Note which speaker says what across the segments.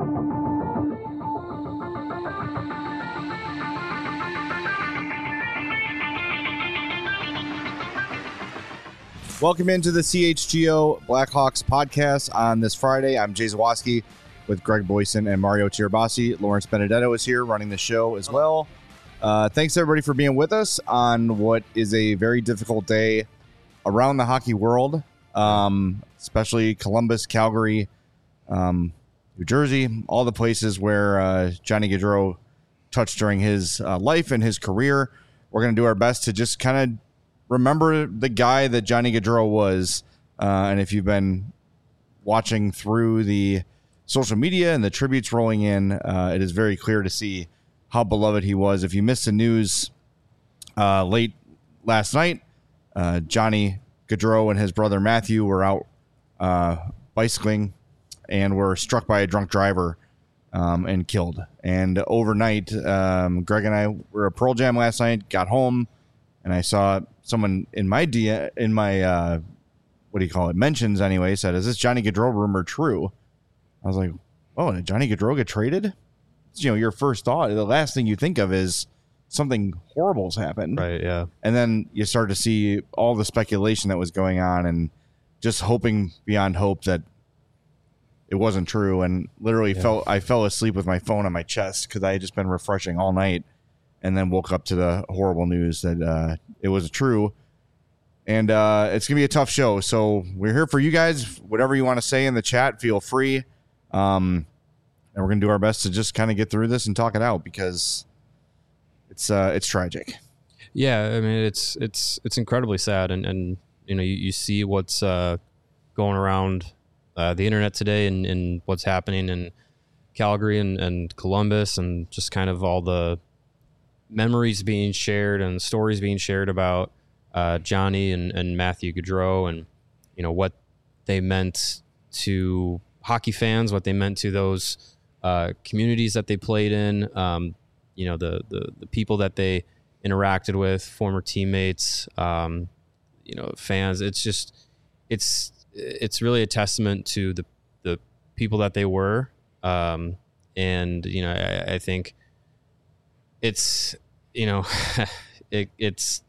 Speaker 1: Welcome into the CHGO Blackhawks podcast on this Friday. I'm Jay Zawoski with Greg Boyson and Mario Tirabassi. Lawrence Benedetto is here running the show as well. Thanks, everybody, for being with us on what is a very difficult day around the hockey world, especially Columbus, Calgary, New Jersey, all the places where Johnny Gaudreau touched during his life and his career. We're going to do our best to just kind of remember the guy that Johnny Gaudreau was. And if you've been watching through the social media and the tributes rolling in, it is very clear to see how beloved he was. If you missed the news late last night, Johnny Gaudreau and his brother Matthew were out bicycling and were struck by a drunk driver and killed. And overnight, Greg and I were at Pearl Jam last night, got home, and I saw someone in my mentions anyway, said, "Is this Johnny Gaudreau rumor true?" I was like, "Oh, did Johnny Gaudreau get traded?" You know, your first thought, the last thing you think of is something horrible's happened.
Speaker 2: Right, yeah.
Speaker 1: And then you start to see all the speculation that was going on and just hoping beyond hope that it wasn't true. And literally I fell asleep with my phone on my chest because I had just been refreshing all night, and then woke up to the horrible news that it was true. And it's going to be a tough show. So we're here for you guys. Whatever you want to say in the chat, feel free. And we're going to do our best to just kind of get through this and talk it out because it's tragic.
Speaker 2: Yeah, I mean, it's incredibly sad. And you know, you see what's going around the internet today and what's happening in Calgary and Columbus, and just kind of all the memories being shared and stories being shared about Johnny and Matthew Gaudreau, and you know what they meant to hockey fans, what they meant to those communities that they played in, you know, the people that they interacted with, former teammates, you know, fans. It's just it's really a testament to the people that they were, and you know, I think it's, you know, it's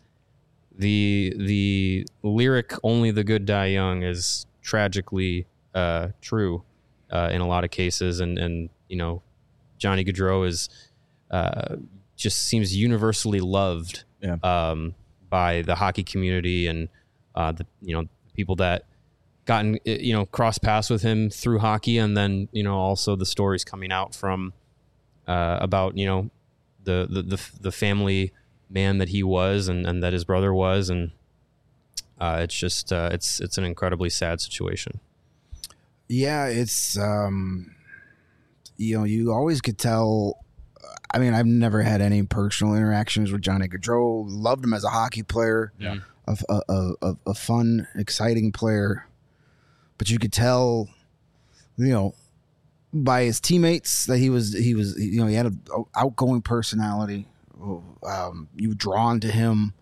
Speaker 2: the lyric "Only the good die young" is tragically true in a lot of cases, and you know, Johnny Gaudreau is just seems universally loved by the hockey community and the, you know, people that gotten, you know, cross paths with him through hockey, and then, you know, also the stories coming out from about, you know, the family man that he was and that his brother was, and it's just it's an incredibly sad situation.
Speaker 3: Yeah, it's you know, you always could tell. I mean, I've never had any personal interactions with Johnny Gaudreau. Loved him as a hockey player, a fun, exciting player. But you could tell, you know, by his teammates that he was, you know, he had an outgoing personality. You were drawn to him,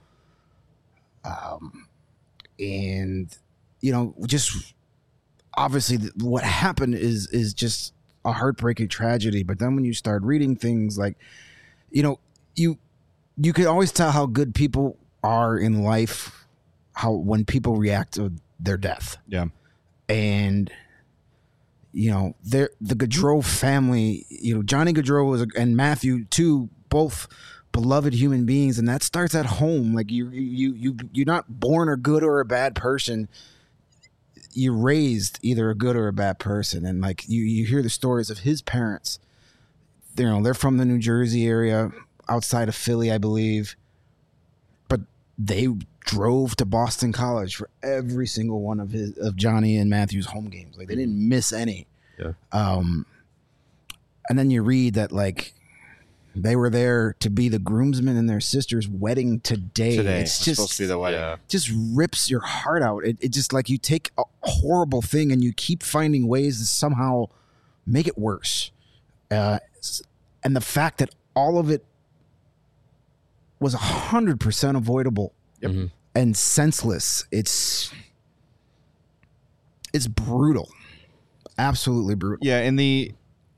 Speaker 3: and you know, just obviously what happened is just a heartbreaking tragedy. But then when you start reading things like, you know, you can always tell how good people are in life, how when people react to their death.
Speaker 1: Yeah.
Speaker 3: And you know, the Gaudreau family, you know, Johnny Gaudreau and Matthew too, both beloved human beings, and that starts at home. Like you're not born a good or a bad person. You're raised either a good or a bad person. And like you hear the stories of his parents. You know, they're from the New Jersey area, outside of Philly, I believe. But they drove to Boston College for every single one of Johnny and Matthew's home games. Like they didn't miss any.
Speaker 2: Yeah.
Speaker 3: And then you read that like they were there to be the groomsmen in their sister's wedding today. It's just
Speaker 1: supposed to be the wedding.
Speaker 3: Just rips your heart out. It just like you take a horrible thing and you keep finding ways to somehow make it worse. And the fact that all of it was 100% avoidable.
Speaker 1: Yep. Mm-hmm.
Speaker 3: And senseless. It's brutal. Absolutely brutal.
Speaker 1: Yeah, and the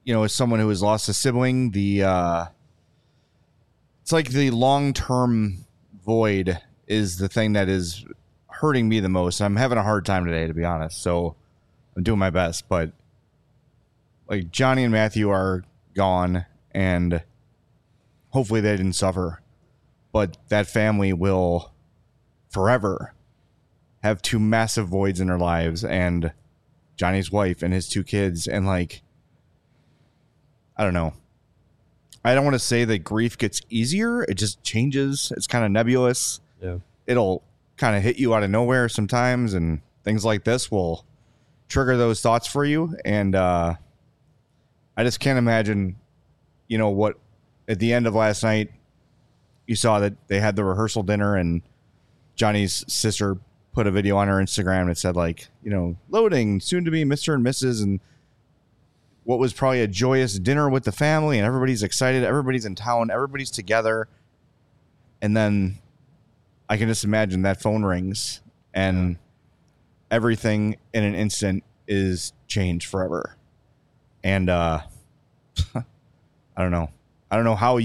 Speaker 1: as someone who has lost a sibling, it's like the long-term void is the thing that is hurting me the most. I'm having a hard time today, to be honest. So I'm doing my best, but like Johnny and Matthew are gone, and hopefully they didn't suffer, but that family will forever have two massive voids in their lives, and Johnny's wife and his two kids. And like, I don't know. I don't want to say that grief gets easier. It just changes. It's kind of nebulous.
Speaker 2: Yeah.
Speaker 1: It'll kind of hit you out of nowhere sometimes, and things like this will trigger those thoughts for you. And I just can't imagine, what at the end of last night, you saw that they had the rehearsal dinner, and Johnny's sister put a video on her Instagram that said like, loading soon to be Mr. and Mrs. and what was probably a joyous dinner with the family, and everybody's excited. Everybody's in town. Everybody's together. And then I can just imagine that phone rings and everything in an instant is changed forever. And I don't know. I don't know how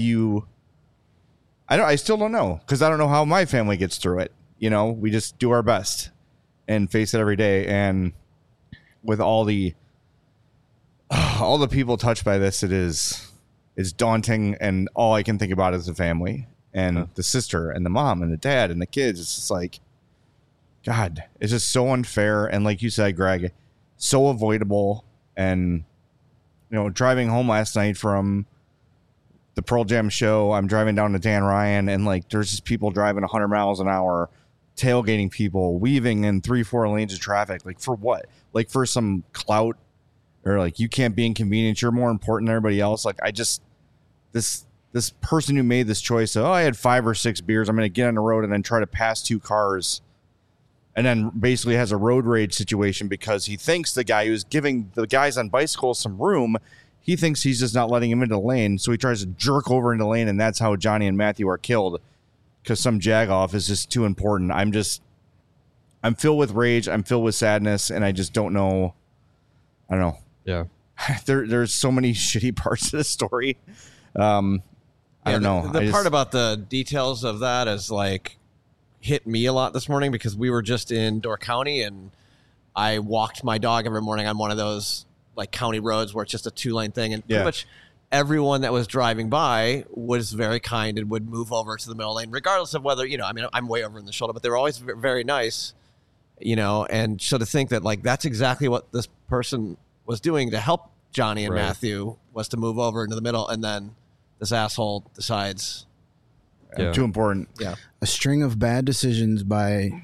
Speaker 1: I still don't know, because I don't know how my family gets through it. We just do our best and face it every day. And with all the people touched by this, it's daunting. And all I can think about is the family and the sister and the mom and the dad and the kids. It's just like, God, it's just so unfair. And like you said, Greg, so avoidable. And, driving home last night from the Pearl Jam show, I'm driving down to Dan Ryan, and like, there's just people driving 100 miles an hour, tailgating people, weaving in 3-4 lanes of traffic. Like, for what? Like, for some clout, or like, you can't be inconvenienced, you're more important than everybody else. Like, this person who made this choice of, I had 5 or 6 beers, I'm going to get on the road and then try to pass 2 cars, and then basically has a road rage situation because he thinks the guy who's giving the guys on bicycles some room, he thinks he's just not letting him into the lane, so he tries to jerk over into the lane, and that's how Johnny and Matthew are killed, because some jagoff is just too important. I'm filled with rage, I'm filled with sadness, and I just don't know. I don't know.
Speaker 2: Yeah.
Speaker 1: There's so many shitty parts of the story. I don't know.
Speaker 4: The part about the details of that is like hit me a lot this morning, because we were just in Door County, and I walked my dog every morning on one of those like county roads where it's just a 2-lane thing, and pretty much everyone that was driving by was very kind and would move over to the middle lane, regardless of whether, I'm way over in the shoulder, but they were always very nice, and so to think that like that's exactly what this person was doing to help Johnny and Matthew, was to move over into the middle, and then this asshole decides
Speaker 1: too important.
Speaker 4: Yeah.
Speaker 3: A string of bad decisions by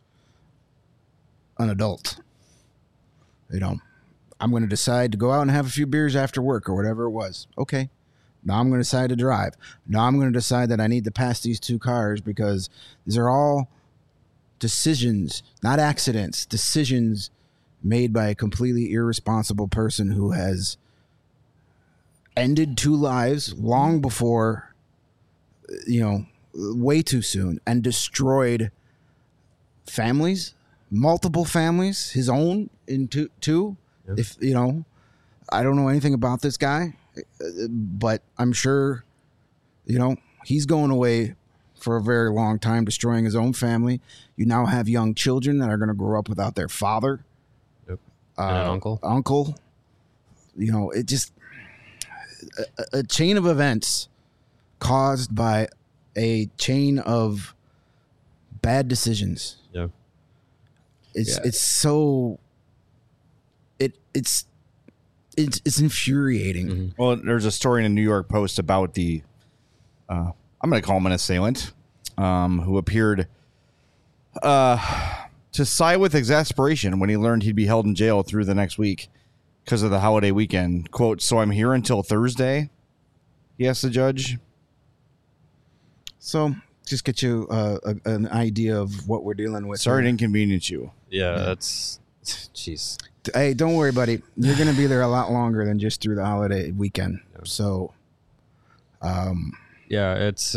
Speaker 3: an adult. I'm going to decide to go out and have a few beers after work or whatever it was. Okay. Now I'm going to decide to drive. Now I'm going to decide that I need to pass these 2 cars, because these are all decisions, not accidents, decisions made by a completely irresponsible person who has ended 2 lives long before, way too soon, and destroyed families, multiple families, his own in two. If I don't know anything about this guy, but I'm sure, he's going away for a very long time, destroying his own family. You now have young children that are going to grow up without their father.
Speaker 2: Yep. And an
Speaker 3: uncle. It just a chain of events caused by a chain of bad decisions.
Speaker 2: Yeah.
Speaker 3: It's so it's infuriating.
Speaker 2: Mm-hmm.
Speaker 1: Well, there's a story in the New York Post about the I'm going to call him an assailant, who appeared to sigh with exasperation when he learned he'd be held in jail through the next week because of the holiday weekend. Quote, "So I'm here until Thursday?" he asked the judge.
Speaker 3: So just get you an idea of what we're dealing with.
Speaker 1: Sorry to inconvenience you.
Speaker 2: Yeah, that's... Jeez.
Speaker 3: Hey, don't worry, buddy. You're going to be there a lot longer than just through the holiday weekend. So...
Speaker 2: yeah, it's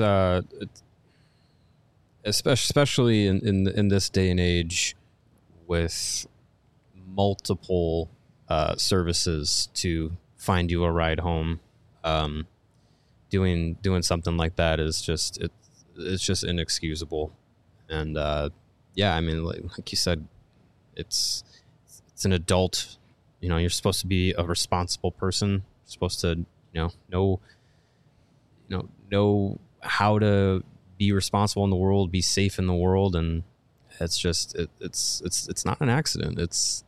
Speaker 2: especially in this day and age with multiple services to find you a ride home. Doing something like that is just it's just inexcusable. And yeah, I mean, like you said, it's an adult. You know, you're supposed to be a responsible person. You're supposed to know how to be responsible in the world, be safe in the world, and it's just it's not an accident. It's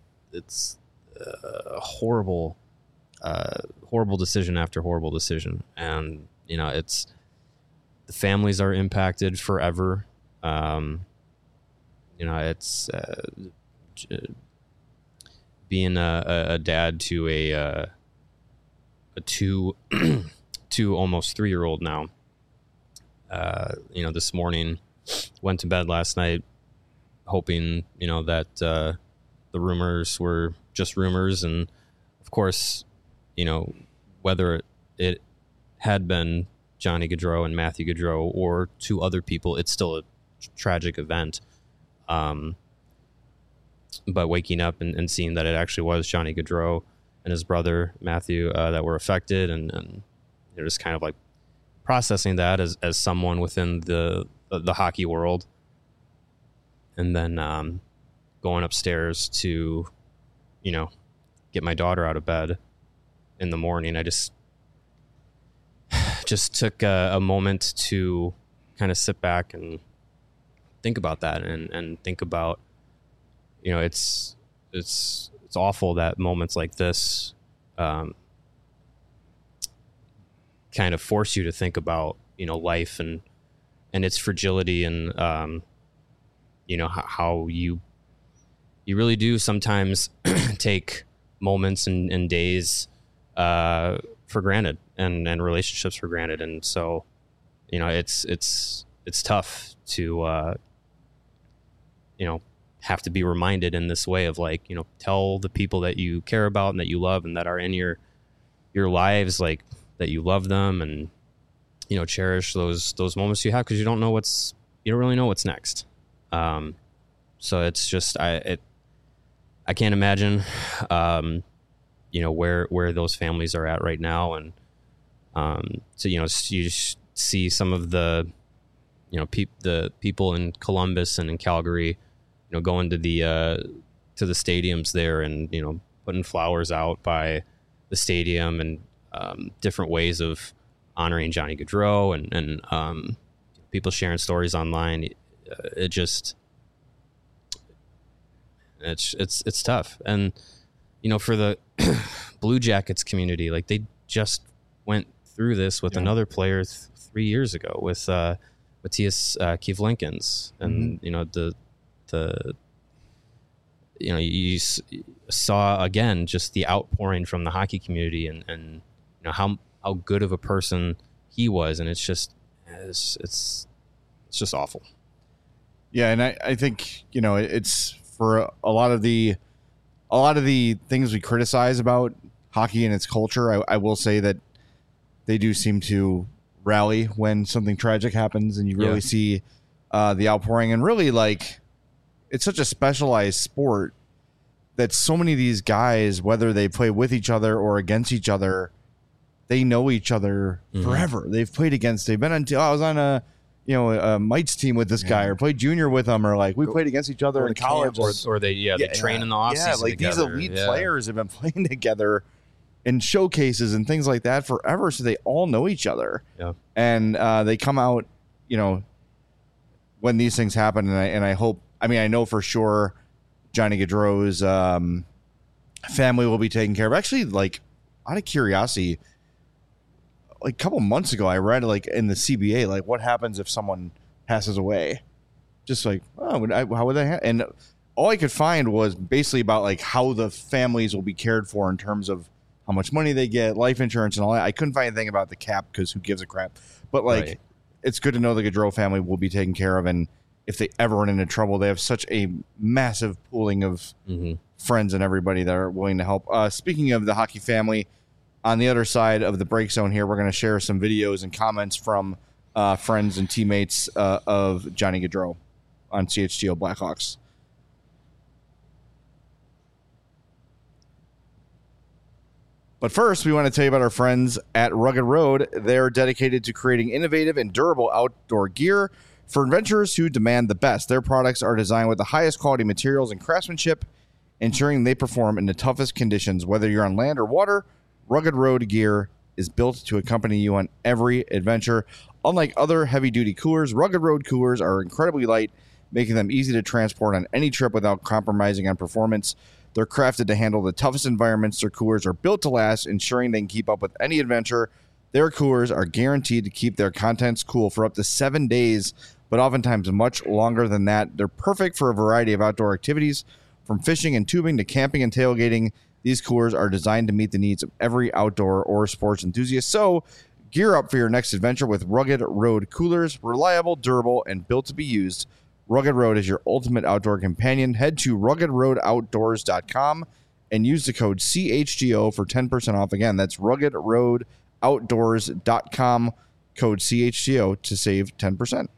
Speaker 2: a horrible decision after horrible decision, and it's the families are impacted forever. It's being a dad to a 2 almost 3-year-old now. This morning went to bed last night hoping that the rumors were just rumors, and of course whether it had been Johnny Gaudreau and Matthew Gaudreau or 2 other people, it's still a tragic event. But waking up and seeing that it actually was Johnny Gaudreau and his brother Matthew that were affected, and just kind of like processing that as someone within the hockey world, and then going upstairs to get my daughter out of bed in the morning. I just took a moment to kind of sit back and think about that, and think about it's awful that moments like this kind of force you to think about life and its fragility, and how you really do sometimes take moments and days for granted, and relationships for granted. And so it's tough to have to be reminded in this way of tell the people that you care about and that you love and that are in your lives, like, that you love them, and cherish those moments you have, because you don't really know what's next. So it's just I can't imagine where those families are at right now, and so you see some of the the people in Columbus and in Calgary going to the stadiums there, and putting flowers out by the stadium, and different ways of honoring Johnny Gaudreau, and people sharing stories online. It's tough. And for the Blue Jackets community, like, they just went through this with another player 3 years ago with Matthias Kivlinkins, and you saw again just the outpouring from the hockey community, and how good of a person he was, and it's just awful.
Speaker 1: Yeah, and I think it's for a lot of the things we criticize about hockey and its culture. I will say that they do seem to rally when something tragic happens, and you really see the outpouring. And really, like, it's such a specialized sport that so many of these guys, whether they play with each other or against each other, they know each other forever. They've played against. They've been on. I was on a Mites team with this guy, or played junior with him, or like we played against each other in college,
Speaker 2: or they train in the off season.
Speaker 1: Like together. These elite players have been playing together in showcases and things like that forever, so they all know each other.
Speaker 2: Yeah,
Speaker 1: and they come out, when these things happen, and I hope. I mean, I know for sure Johnny Gaudreau's family will be taken care of. Actually, like, out of curiosity, like a couple months ago, I read like in the CBA, like, what happens if someone passes away? Just like, how would they? And all I could find was basically about like how the families will be cared for in terms of how much money they get, life insurance, and all that. I couldn't find anything about the cap, because who gives a crap? But like, It's good to know the Gaudreau family will be taken care of, and if they ever run into trouble, they have such a massive pooling of friends and everybody that are willing to help. Speaking of the hockey family, on the other side of the break zone here, we're going to share some videos and comments from friends and teammates of Johnny Gaudreau on CHGO Blackhawks. But first, we want to tell you about our friends at Rugged Road. They're dedicated to creating innovative and durable outdoor gear for adventurers who demand the best. Their products are designed with the highest quality materials and craftsmanship, ensuring they perform in the toughest conditions. Whether you're on land or water, Rugged Road gear is built to accompany you on every adventure. Unlike other heavy-duty coolers, Rugged Road coolers are incredibly light, making them easy to transport on any trip without compromising on performance. They're crafted to handle the toughest environments. Their coolers are built to last, ensuring they can keep up with any adventure. Their coolers are guaranteed to keep their contents cool for up to 7 days, but oftentimes much longer than that. They're perfect for a variety of outdoor activities, from fishing and tubing to camping and tailgating. These coolers are designed to meet the needs of every outdoor or sports enthusiast. So gear up for your next adventure with Rugged Road coolers, reliable, durable, and built to be used. Rugged Road is your ultimate outdoor companion. Head to ruggedroadoutdoors.com and use the code CHGO for 10% off. Again, that's ruggedroadoutdoors.com, code CHGO to save 10%.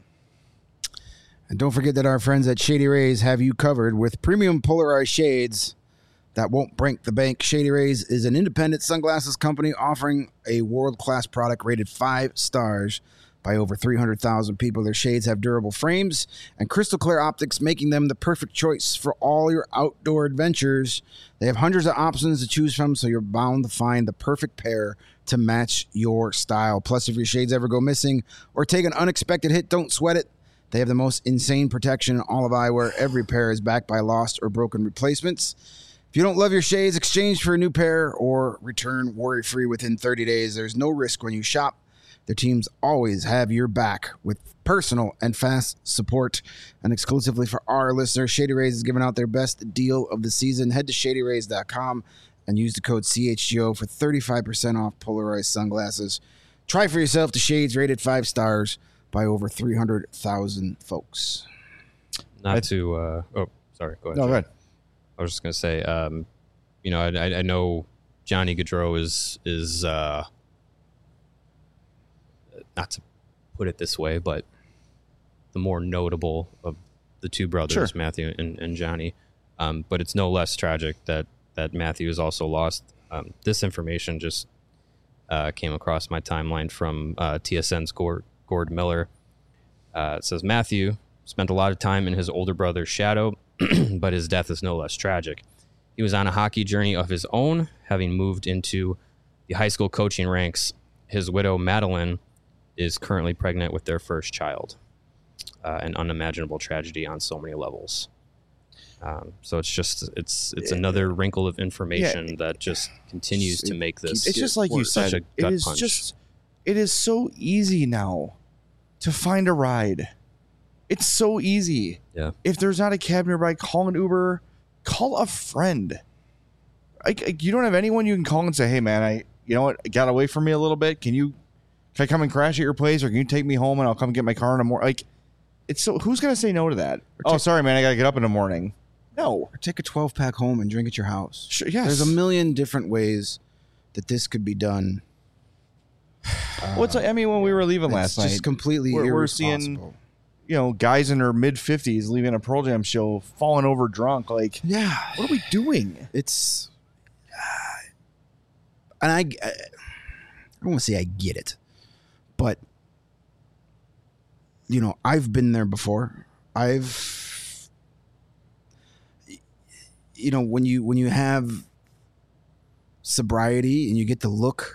Speaker 3: And don't forget that our friends at Shady Rays have you covered with premium polarized shades that won't break the bank. Shady Rays is an independent sunglasses company offering a world-class product rated 5 stars by over 300,000 people. Their shades have durable frames and crystal clear optics, making them the perfect choice for all your outdoor adventures. They have hundreds of options to choose from, so you're bound to find the perfect pair to match your style. Plus, if your shades ever go missing or take an unexpected hit, don't sweat it. They have the most insane protection in all of eyewear. Every pair is backed by lost or broken replacements. If you don't love your shades, exchange for a new pair or return worry-free within 30 days. There's no risk when you shop. Their teams always have your back with personal and fast support. And exclusively for our listeners, Shady Rays is giving out their best deal of the season. Head to shadyrays.com and use the code CHGO for 35% off polarized sunglasses. Try for yourself the shades rated 5 stars by over 300,000 folks.
Speaker 2: Not to sorry, go ahead.
Speaker 1: No, go ahead.
Speaker 2: I was just gonna say, I know Johnny Gaudreau is not to put it this way, but the more notable of the two brothers,
Speaker 1: Sure.
Speaker 2: Matthew and Johnny. But it's no less tragic that Matthew is also lost. This information just came across my timeline from TSN's Gord Miller. It says Matthew spent a lot of time in his older brother's shadow, but his death is no less tragic. He was on a hockey journey of his own, having moved into the high school coaching ranks. His widow, Madeline, is currently pregnant with their first child. An unimaginable tragedy on so many levels. So it's another wrinkle of information that just continues to make this.
Speaker 1: It's just like you
Speaker 2: such
Speaker 1: said.
Speaker 2: a gut punch.
Speaker 1: It is so easy now to find a ride. It's so easy.
Speaker 2: Yeah.
Speaker 1: If there's not a cab nearby, call an Uber, call a friend. You don't have anyone you can call and say, "Hey, man, you know what? It got away from me a little bit. Can I come and crash at your place, or can you take me home and I'll come get my car in the morning?" It's so. Who's gonna say no to that? Oh, sorry, man, I gotta get up in the morning. No.
Speaker 3: Or take a 12-pack home and drink at your house.
Speaker 1: Sure, yes.
Speaker 3: There's a million different ways that this could be done.
Speaker 1: When we were leaving last night,
Speaker 3: It's just completely
Speaker 1: we're
Speaker 3: irresponsible.
Speaker 1: seeing, guys in their mid-50s leaving a Pearl Jam show, falling over drunk.
Speaker 3: Yeah.
Speaker 1: What are we doing?
Speaker 3: It's... and I don't want to say I get it, but, I've been there before. When you have sobriety and you get to look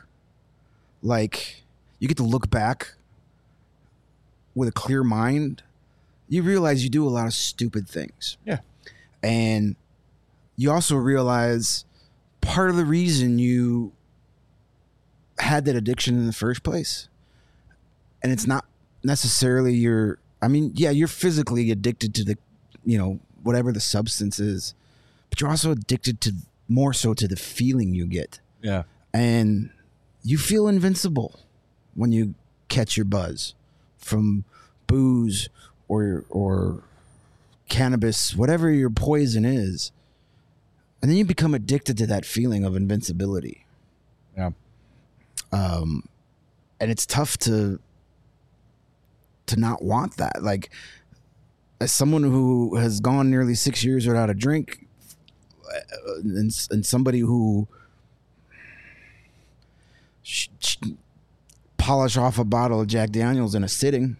Speaker 3: back with a clear mind, you realize you do a lot of stupid things.
Speaker 1: Yeah.
Speaker 3: And you also realize part of the reason you had that addiction in the first place. And it's not necessarily you're physically addicted to the, whatever the substance is, but you're also addicted to more so to the feeling you get.
Speaker 1: Yeah.
Speaker 3: And you feel invincible when you catch your buzz from booze or cannabis, whatever your poison is. And then you become addicted to that feeling of invincibility.
Speaker 1: Yeah.
Speaker 3: And it's tough to not want that. Like, as someone who has gone nearly 6 years without a drink, and somebody who polish off a bottle of Jack Daniels in a sitting.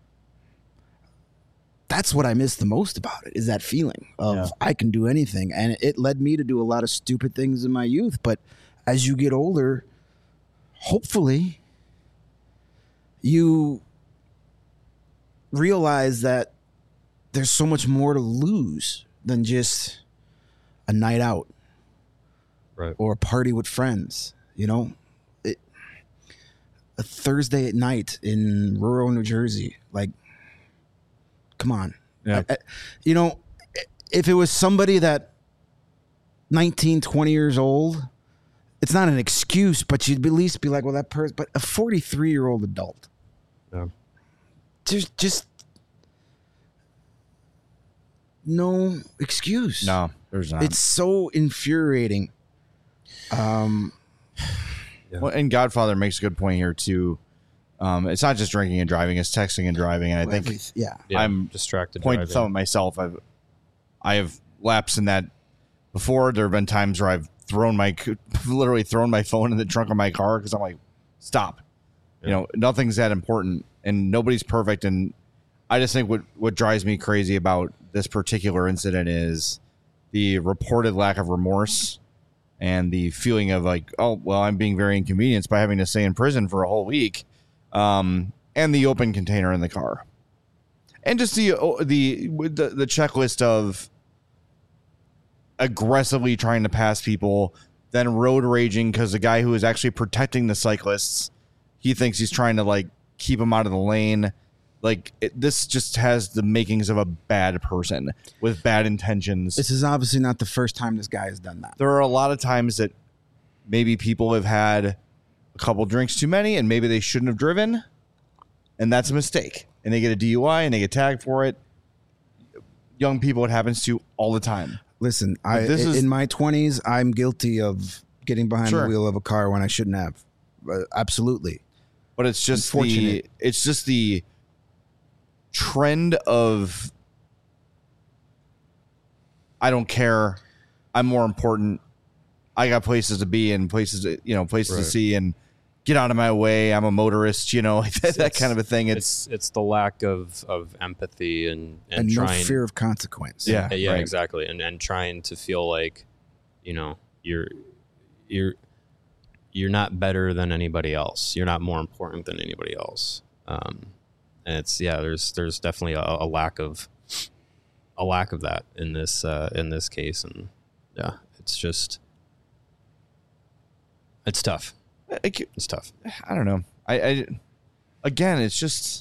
Speaker 3: That's what I miss the most about it, is that feeling of I can do anything. And it led me to do a lot of stupid things in my youth. But as you get older, hopefully you realize that there's so much more to lose than just a night out,
Speaker 2: Right.
Speaker 3: or a party with friends. You know, a Thursday at night in rural New Jersey, like, come on.
Speaker 1: Yeah.
Speaker 3: You know, if it was somebody that 19, 20 years old, it's not an excuse, but you'd at least be like, well, that person, but a 43-year-old adult.
Speaker 2: Yeah.
Speaker 3: There's just no excuse.
Speaker 1: No, there's not.
Speaker 3: It's so infuriating.
Speaker 1: Well, and Godfather makes a good point here too. It's not just drinking and driving; it's texting and driving. And I think
Speaker 2: Yeah,
Speaker 1: I'm
Speaker 2: distracted.
Speaker 1: pointing
Speaker 2: driving.
Speaker 1: some of myself. I have lapsed in that before. There have been times where I've literally thrown my phone in the trunk of my car because I'm like, stop. You know, nothing's that important, and nobody's perfect. And I just think what drives me crazy about this particular incident is the reported lack of remorse and the feeling of like, oh, well, I'm being very inconvenienced by having to stay in prison for a whole week, and the open container in the car, and just the checklist of aggressively trying to pass people, then road raging because the guy who is actually protecting the cyclists, he thinks he's trying to like keep them out of the lane. Like this just has the makings of a bad person with bad intentions.
Speaker 3: This is obviously not the first time this guy has done that.
Speaker 1: There are a lot of times that maybe people have had a couple drinks too many and maybe they shouldn't have driven, and that's a mistake. And they get a DUI and they get tagged for it. Young people, it happens to all the time.
Speaker 3: Listen, in my 20s, I'm guilty of getting behind the wheel of a car when I shouldn't have. Absolutely.
Speaker 1: But it's just
Speaker 3: Unfortunate.
Speaker 1: it's just the trend of I don't care, I'm more important, I got places to be and places to see, and get out of my way, I'm a motorist, that kind of a thing.
Speaker 2: It's the lack of empathy and
Speaker 3: no
Speaker 2: trying,
Speaker 3: fear of consequence.
Speaker 2: yeah,
Speaker 1: right.
Speaker 2: exactly, and trying to feel like you're not better than anybody else, you're not more important than anybody else. And it's there's definitely a lack of that in this case, and it's tough. It's tough.
Speaker 1: I don't know. I again, it's just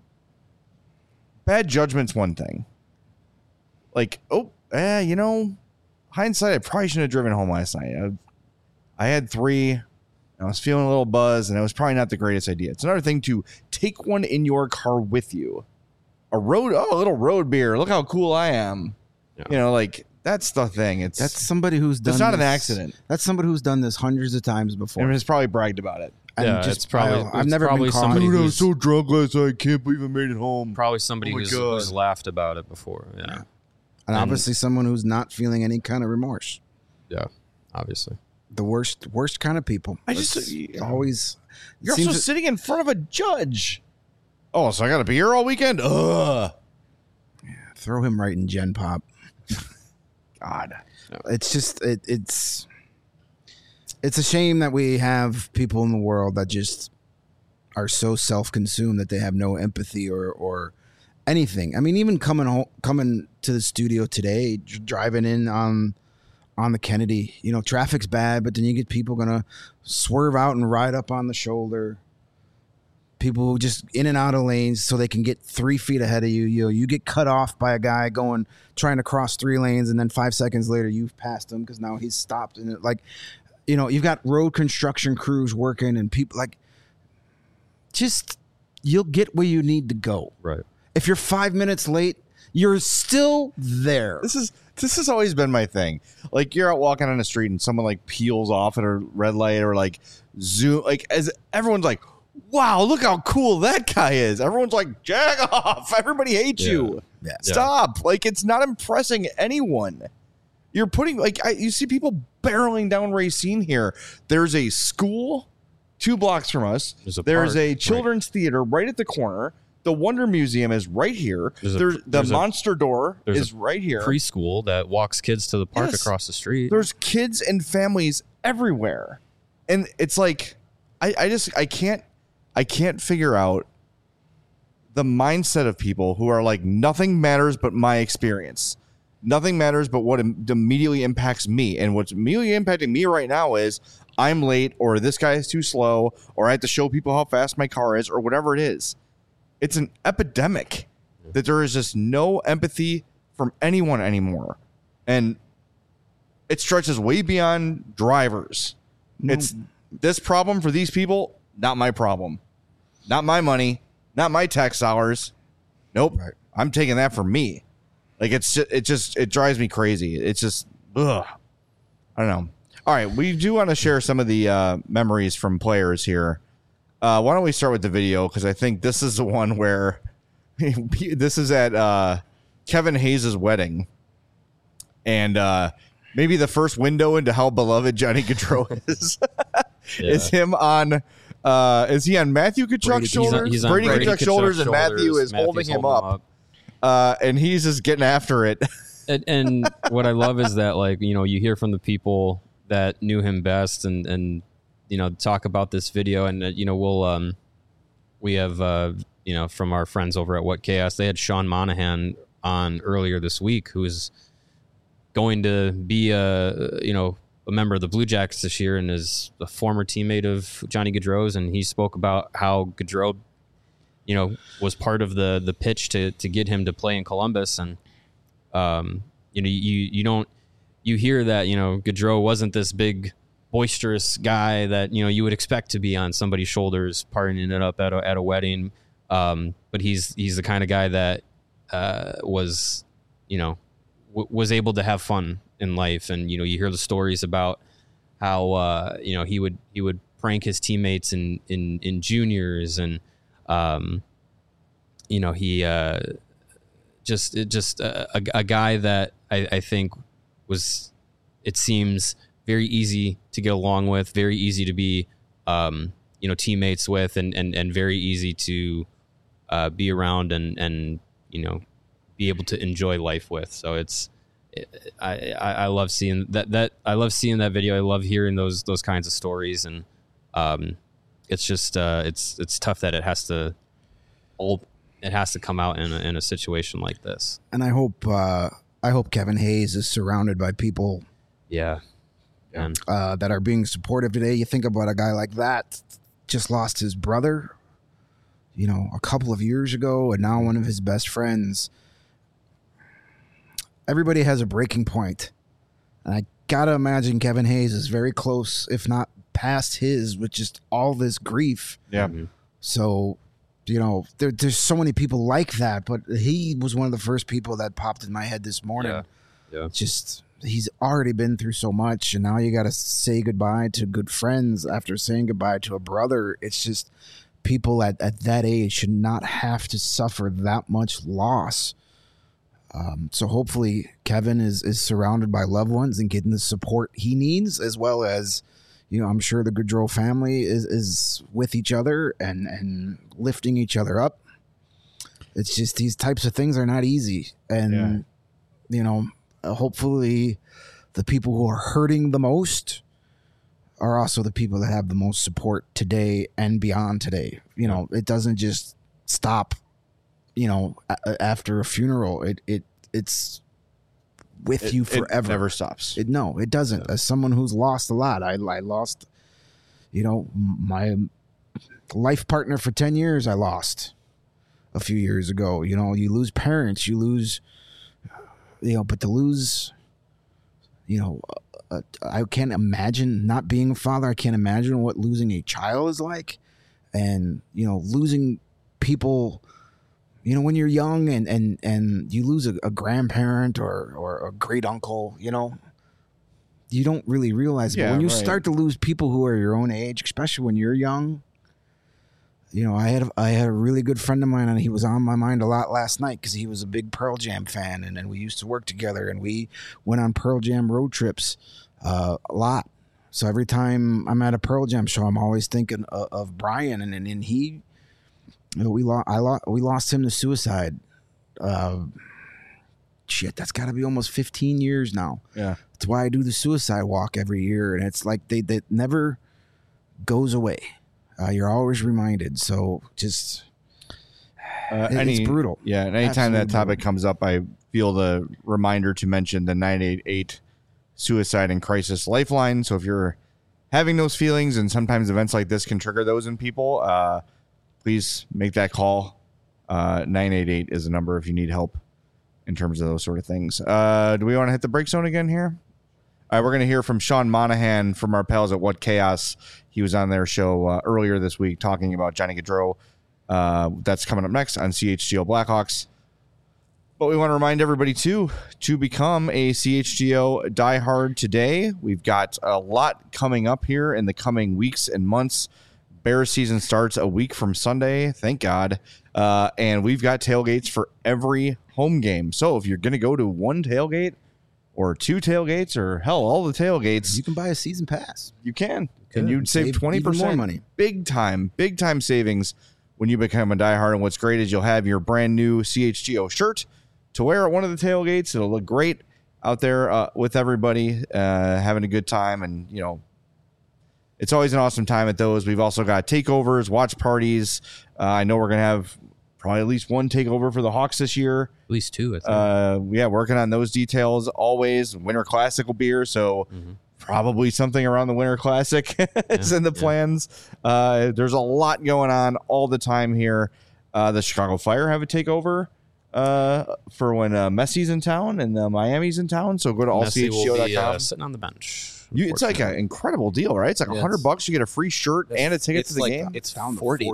Speaker 1: bad judgment's one thing. Like, hindsight, I probably shouldn't have driven home last night. I had 3. I was feeling a little buzz, and it was probably not the greatest idea. It's another thing to take one in your car with you. A little road beer. Look how cool I am.
Speaker 2: Yeah.
Speaker 1: That's the thing.
Speaker 3: That's somebody who's done.
Speaker 1: It's not
Speaker 3: this,
Speaker 1: an accident.
Speaker 3: That's somebody who's done this hundreds of times before.
Speaker 1: And has probably bragged about it.
Speaker 3: And
Speaker 2: it's probably
Speaker 3: I've never
Speaker 2: probably
Speaker 3: been caught.
Speaker 2: somebody
Speaker 1: Dude, I was
Speaker 2: who's
Speaker 1: so drunk last night. I can't believe I made it home.
Speaker 2: probably somebody
Speaker 1: Oh my
Speaker 2: who's
Speaker 1: God.
Speaker 2: laughed about it before. Yeah,
Speaker 3: And obviously someone who's not feeling any kind of remorse.
Speaker 2: yeah, obviously.
Speaker 3: The worst kind of people.
Speaker 1: I just-
Speaker 3: It's always.
Speaker 1: You're
Speaker 3: seems
Speaker 1: also
Speaker 3: that-
Speaker 1: sitting in front of a judge. Oh, so I got to be here all weekend? Ugh.
Speaker 3: throw him right in Gen Pop.
Speaker 1: God.
Speaker 3: It's just it's a shame that we have people in the world that just are so self-consumed that they have no empathy or anything. I mean, even coming to the studio today, driving in on the Kennedy, traffic's bad, but then you get people gonna swerve out and ride up on the shoulder. People who just in and out of lanes so they can get 3 feet ahead of you. You get cut off by a guy trying to cross 3 lanes, and then 5 seconds later you've passed him because now he's stopped. And you've got road construction crews working, and people you'll get where you need to go.
Speaker 2: Right.
Speaker 3: If you're 5 minutes late, you're still there.
Speaker 1: This has always been my thing. Like, you're out walking on the street and someone peels off at a red light or zoom, as everyone's like, wow, look how cool that guy is. Everyone's like, jag off. Everybody hates you.
Speaker 3: Yeah.
Speaker 1: Stop. It's not impressing anyone. You're putting, you see people barreling down Racine here. There's a school 2 blocks from us. There's a children's theater right at the corner. The Wonder Museum is right here. The Monster Door is right here.
Speaker 2: Preschool that walks kids to the park across the street.
Speaker 1: There's kids and families everywhere. And it's like I can't figure out the mindset of people who are like, nothing matters but my experience. Nothing matters but what immediately impacts me. And what's immediately impacting me right now is I'm late, or this guy is too slow, or I have to show people how fast my car is, or whatever it is. It's an epidemic that there is just no empathy from anyone anymore. And it stretches way beyond drivers. It's this problem for these people, not my problem. Not my money, not my tax dollars. Nope. Right. I'm taking that for me. Like, it drives me crazy. It's just, ugh. I don't know. All right. We do want to share some of the memories from players here. Why don't we start with the video? Because I think this is the one where this is at Kevin Hayes' wedding. And maybe the first window into how beloved Johnny Gaudreau is. Is him on... is he on Matthew Tkachuk's shoulders?
Speaker 2: He's on
Speaker 1: Brady Tkachuk's shoulders, and Matthew is holding him up. And he's just getting after it.
Speaker 2: and what I love is that, like, you know, you hear from the people that knew him best and you know, talk about this video. And, you know, we'll we have, you know, from our friends over at What Chaos, they had Sean Monahan on earlier this week, who is going to be a member of the Blue Jackets this year and is a former teammate of Johnny Gaudreau's. And he spoke about how Gaudreau, you know, was part of the pitch to get him to play in Columbus. And, you know, you hear that, you know, Gaudreau wasn't this big boisterous guy that, you know, you would expect to be on somebody's shoulders partying it up at a wedding. But he's the kind of guy that was, you know, was able to have fun in life. And, you know, you hear the stories about how, you know, he would prank his teammates in juniors. And, you know, he just a guy that I think was, it seems, very easy to get along with, very easy to be, you know, teammates with, and very easy to be around and, you know, be able to enjoy life with. So I love seeing that. I love seeing that video. I love hearing those kinds of stories. And it's just it's tough that it has to come out in a situation like this.
Speaker 3: And I hope Kevin Hayes is surrounded by people.
Speaker 2: Yeah.
Speaker 3: That are being supportive today. You think about a guy like that, just lost his brother, you know, a couple of years ago, and now one of his best friends. Everybody has a breaking point. And I gotta imagine Kevin Hayes is very close, if not past his, with just all this grief.
Speaker 1: Yeah.
Speaker 3: So, you know, there's so many people like that, but he was one of the first people that popped in my head this morning.
Speaker 2: Yeah.
Speaker 3: Just... he's already been through so much, and now you got to say goodbye to good friends after saying goodbye to a brother. It's just people at that age should not have to suffer that much loss. So hopefully Kevin is surrounded by loved ones and getting the support he needs, as well as, you know, I'm sure the Gaudreau family is with each other and lifting each other up. It's just these types of things are not easy. And, you know, hopefully the people who are hurting the most are also the people that have the most support today and beyond today. You know, it doesn't just stop, you know, after a funeral. It's with you forever.
Speaker 1: It never stops.
Speaker 3: It doesn't. Yeah. As someone who's lost a lot, I lost, you know, my life partner for 10 years. I lost a few years ago. You know, you lose parents, you lose, you know, but to lose, you know, I can't imagine not being a father. I can't imagine what losing a child is like. And, you know, losing people, you know, when you're young and you lose a grandparent or a great uncle, you know, you don't really realize it. But when you start to lose people who are your own age, especially when you're young, you know, I had a really good friend of mine, and he was on my mind a lot last night because he was a big Pearl Jam fan, and we used to work together, and we went on Pearl Jam road trips a lot. So every time I'm at a Pearl Jam show, I'm always thinking of Brian, and he, we lost him to suicide. Shit, that's got to be almost 15 years now.
Speaker 1: Yeah,
Speaker 3: that's why I do the suicide walk every year, and it's like that never goes away. You're always reminded. So just it's brutal.
Speaker 1: Yeah, and anytime that topic comes up, I feel the reminder to mention the 988 Suicide and Crisis Lifeline. So if you're having those feelings, and sometimes events like this can trigger those in people, please make that call. 988 is the number if you need help in terms of those sort of things. Do we want to hit the break zone again here? All right, we're going to hear from Sean Monahan from our pals at What Chaos. He was on their show earlier this week talking about Johnny Gaudreau. That's coming up next on CHGO Blackhawks. But we want to remind everybody, too, to become a CHGO diehard today. We've got a lot coming up here in the coming weeks and months. Bears season starts a week from Sunday, thank God. And we've got tailgates for every home game. So if you're going to go to one tailgate or two tailgates or, hell, all the tailgates.
Speaker 3: You can buy a season pass.
Speaker 1: You can. And you'd save 20%
Speaker 3: more money.
Speaker 1: Big time savings when you become a diehard. And what's great is you'll have your brand new CHGO shirt to wear at one of the tailgates. It'll look great out there with everybody having a good time. And, you know, it's always an awesome time at those. We've also got takeovers, watch parties. I know we're going to have probably at least one takeover for the Hawks this year.
Speaker 2: At least two, I think.
Speaker 1: Yeah, working on those details always. Winter Classic will be here, so probably something around the Winter Classic is in the plans. There's a lot going on all the time here. The Chicago Fire have a takeover for when Messi's in town and Miami's in town. So go to allchgo.com.
Speaker 2: Sitting on the bench.
Speaker 1: It's like an incredible deal, right? It's like $100. You get a free shirt and a ticket to the game.
Speaker 4: It's $40.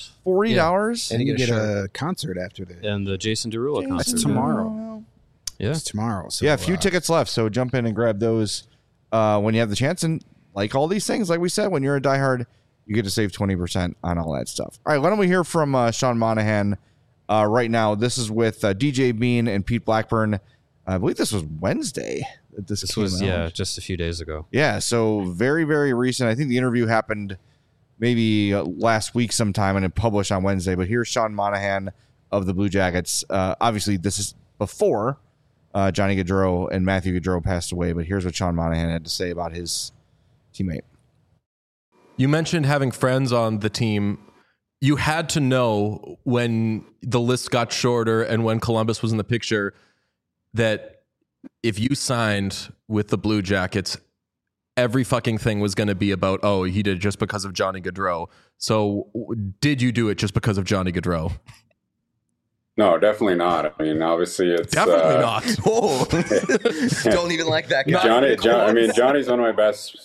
Speaker 1: $40,
Speaker 3: and you get a concert after that.
Speaker 2: And the Jason Derulo concert.
Speaker 3: That's tomorrow.
Speaker 2: Yeah,
Speaker 3: it's tomorrow. So,
Speaker 1: yeah, a few tickets left, so jump in and grab those when you have the chance. And like all these things, like we said, when you're a diehard, you get to save 20% on all that stuff. All right, why don't we hear from Sean Monahan right now? This is with DJ Bean and Pete Blackburn. I believe this was Wednesday. This was out.
Speaker 2: Just a few days ago.
Speaker 1: Yeah, so very, very recent. I think the interview happened maybe last week sometime and it published on Wednesday. But here's Sean Monahan of the Blue Jackets. Obviously, this is before Johnny Gaudreau and Matthew Gaudreau passed away. But here's what Sean Monahan had to say about his teammate.
Speaker 5: You mentioned having friends on the team. You had to know when the list got shorter and when Columbus was in the picture that if you signed with the Blue Jackets, every fucking thing was going to be about, oh, he did it just because of Johnny Gaudreau. So did you do it just because of Johnny Gaudreau?
Speaker 6: No, definely not. I mean, obviously it's...
Speaker 5: Definitely not.
Speaker 7: Whoa. Don't even like that guy.
Speaker 6: Johnny's one of my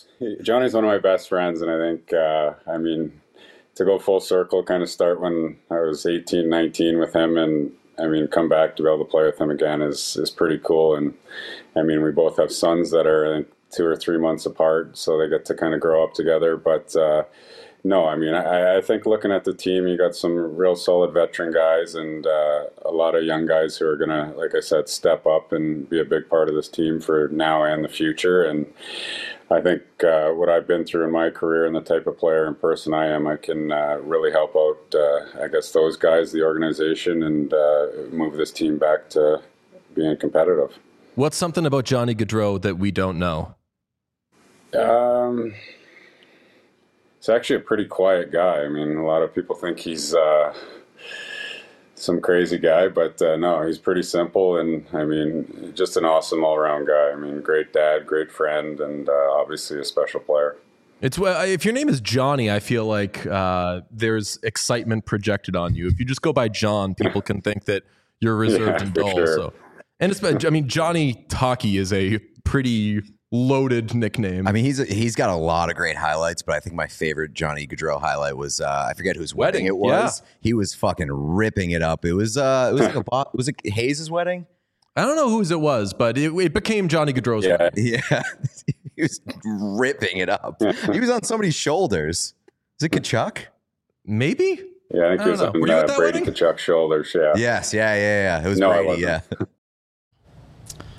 Speaker 6: best friends. And I think, I mean, to go full circle, kind of start when I was 18, 19 with him and I mean, come back to be able to play with him again is pretty cool. And I mean, we both have sons that are I think 2 or 3 months apart, so they get to kind of grow up together. But no, I mean, I think looking at the team, you got some real solid veteran guys and a lot of young guys who are going to, like I said, step up and be a big part of this team for now and the future. And I think what I've been through in my career and the type of player and person I am, I can really help out, I guess, those guys, the organization, and move this team back to being competitive.
Speaker 5: What's something about Johnny Gaudreau that we don't know?
Speaker 6: He's actually a pretty quiet guy. I mean, a lot of people think he's some crazy guy, but no, he's pretty simple, and I mean, just an awesome all-around guy. I mean, great dad, great friend, and obviously a special player.
Speaker 5: It's if your name is Johnny, I feel like there's excitement projected on you. If you just go by John, people can think that you're reserved and dull.
Speaker 6: Sure.
Speaker 5: So, and it's, I mean, Johnny Hockey is a pretty loaded nickname.
Speaker 7: I mean, he's got a lot of great highlights, but I think my favorite Johnny Gaudreau highlight was I forget whose wedding it was. Yeah. He was fucking ripping it up. It was was it Hayes' wedding?
Speaker 5: I don't know whose it was, but it became Johnny Gaudreau's wedding.
Speaker 7: Yeah. He was ripping it up. He was on somebody's shoulders. Is it Kachuk?
Speaker 5: Maybe.
Speaker 6: Yeah, I think he was on Brady Kachuk's shoulders. Yeah.
Speaker 7: Yes. Yeah. It was Brady. Yeah.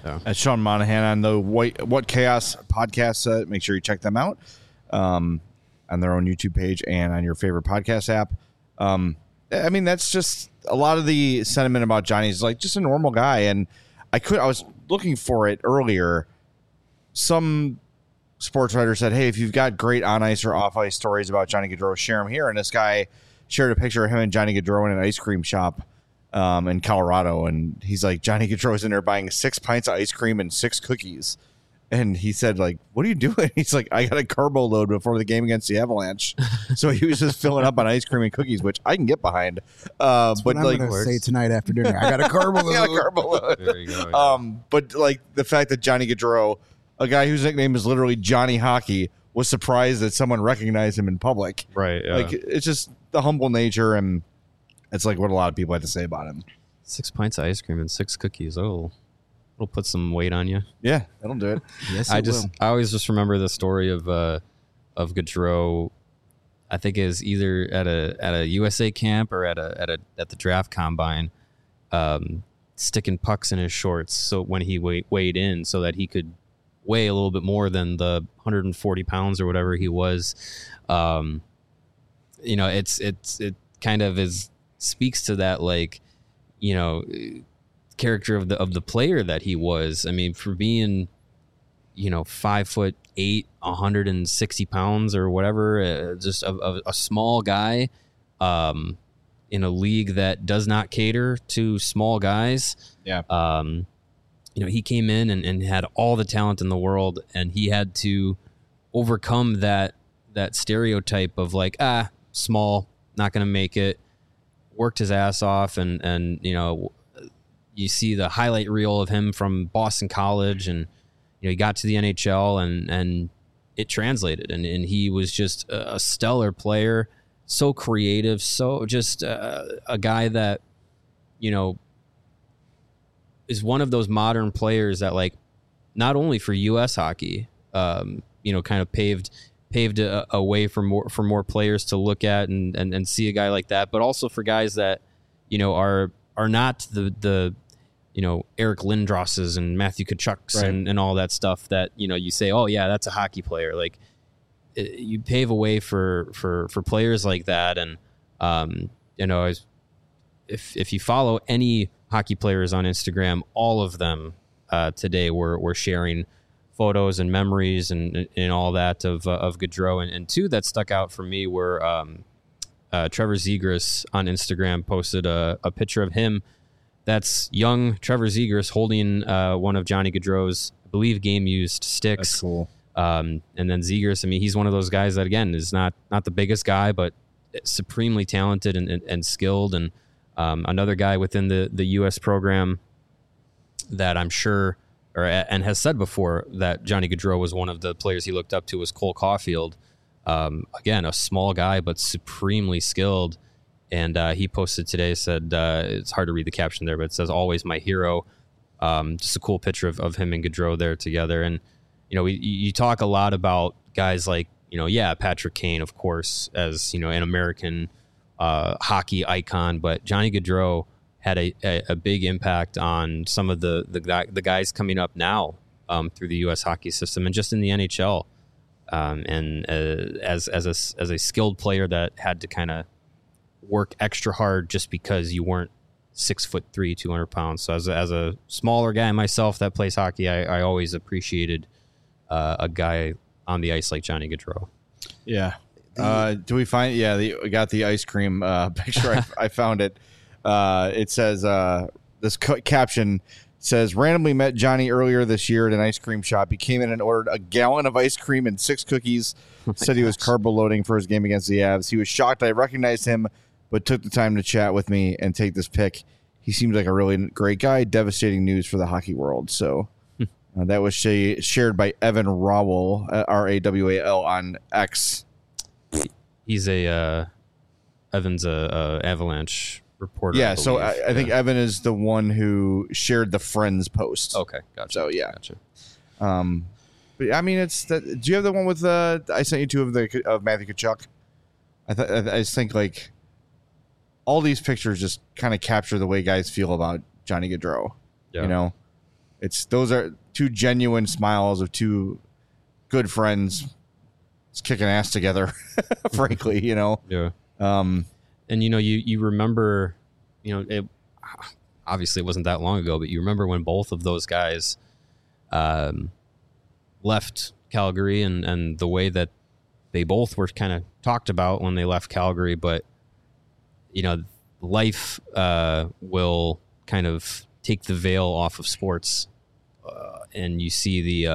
Speaker 1: That's Sean Monahan on the What Chaos podcast. Make sure you check them out on their own YouTube page and on your favorite podcast app. I mean, that's just a lot of the sentiment about Johnny is like just a normal guy. And I was looking for it earlier. Some sports writer said, hey, if you've got great on ice or off ice stories about Johnny Gaudreau, share them here. And this guy shared a picture of him and Johnny Gaudreau in an ice cream shop in Colorado. And he's like, Johnny Gaudreau's in there buying 6 pints of ice cream and 6 cookies. And he said, like, what are you doing? He's like, I got a carbo load before the game against the Avalanche. So he was just filling up on ice cream and cookies, which I can get behind.
Speaker 3: That's
Speaker 1: but
Speaker 3: what
Speaker 1: like,
Speaker 3: I'm going to say tonight after dinner. I got a carbo load.
Speaker 1: I got a carbo load.
Speaker 2: There you go. Yeah.
Speaker 1: But like the fact that Johnny Gaudreau, a guy whose nickname is literally Johnny Hockey, was surprised that someone recognized him in public.
Speaker 2: Right. Yeah.
Speaker 1: Like, it's just the humble nature, and it's like what a lot of people have to say about him.
Speaker 2: 6 pints of ice cream and 6 cookies. Oh, it'll put some weight on you.
Speaker 1: Yeah, that'll do it.
Speaker 3: Yes,
Speaker 2: I always just remember the story of Gaudreau. I think is either at a USA camp or at the draft combine, sticking pucks in his shorts so when he weighed in so that he could weigh a little bit more than the 140 pounds or whatever he was. It kind of speaks to that, like, character of the player that he was. I mean, for being 5'8", 160 pounds or whatever, just a small guy in a league that does not cater to small guys.
Speaker 1: Yeah.
Speaker 2: He came in and had all the talent in the world, and he had to overcome that stereotype of like, small, not going to make it. Worked his ass off, and you see the highlight reel of him from Boston College, and he got to the NHL, and it translated, and he was just a stellar player, so creative, so just a guy that is one of those modern players that, like, not only for U.S. hockey, kind of paved a way for more players to look at and see a guy like that, but also for guys that are not the Eric Lindrosses and Matthew Tkachuk's
Speaker 1: right.
Speaker 2: and all that stuff that you say, oh yeah, that's a hockey player. Like, you pave a way for players like that, and if you follow any hockey players on Instagram, all of them today were sharing photos and memories and all that of Gaudreau, and two that stuck out for me were Trevor Zegras on Instagram posted a picture of him. That's young Trevor Zegras holding one of Johnny Gaudreau's, I believe, game-used sticks.
Speaker 1: That's cool.
Speaker 2: And then Zegras, I mean, he's one of those guys that, again, is not the biggest guy, but supremely talented and skilled. And another guy within the U.S. program that I'm sure, and has said before, that Johnny Gaudreau was one of the players he looked up to, was Cole Caulfield. Again, a small guy, but supremely skilled. And he posted today, said, it's hard to read the caption there, but it says, always my hero. Just a cool picture of him and Gaudreau there together. And, you talk a lot about guys like, Patrick Kane, of course, as, an American hockey icon, but Johnny Gaudreau had a big impact on some of the guys coming up now through the U.S. hockey system and just in the NHL. And as a skilled player that had to kind of work extra hard just because you weren't 6'3", 200 pounds. So as a smaller guy myself that plays hockey, I always appreciated a guy on the ice like Johnny Gaudreau.
Speaker 1: Yeah. Do we find? Yeah, we got the ice cream picture. I found it. It says this caption says, randomly met Johnny earlier this year at an ice cream shop. He came in and ordered a gallon of ice cream and 6 cookies. Said he was carbo loading for his game against the Avs. He was shocked I recognized him, but took the time to chat with me and take this pic. He seems like a really great guy. Devastating news for the hockey world. So that was shared by Evan Rawal, Rawal on X.
Speaker 2: He's Evan's a Avalanche reporter.
Speaker 1: Yeah, so I think Evan is the one who shared the Friends post.
Speaker 2: Okay, gotcha.
Speaker 1: So yeah,
Speaker 2: gotcha.
Speaker 1: But I mean, it's that. Do you have the one with I sent you two of Matthew Tkachuk? I just think like all these pictures just kind of capture the way guys feel about Johnny Gaudreau.
Speaker 2: Yeah.
Speaker 1: those are two genuine smiles of two good friends just kicking ass together, frankly,
Speaker 2: Yeah. And you remember, obviously it wasn't that long ago, but you remember when both of those guys left Calgary and the way that they both were kind of talked about when they left Calgary, but life will kind of take the veil off of sports, and you see the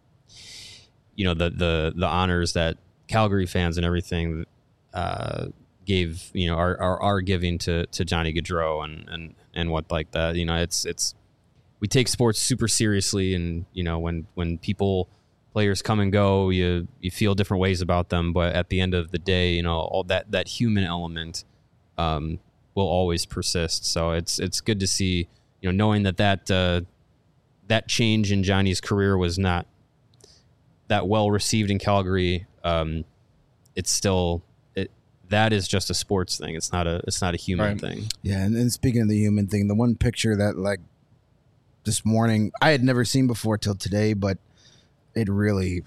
Speaker 2: the honors that Calgary fans and everything gave, are giving to Johnny Gaudreau and what like that. It's we take sports super seriously, and when players come and go, you feel different ways about them, but at the end of the day, all that human element will always persist. So it's good to see, knowing that change in Johnny's career was not that well received in Calgary. It's still that is just a sports thing. It's not a human thing.
Speaker 3: Yeah, and speaking of the human thing, the one picture that like this morning I had never seen before till today, but it really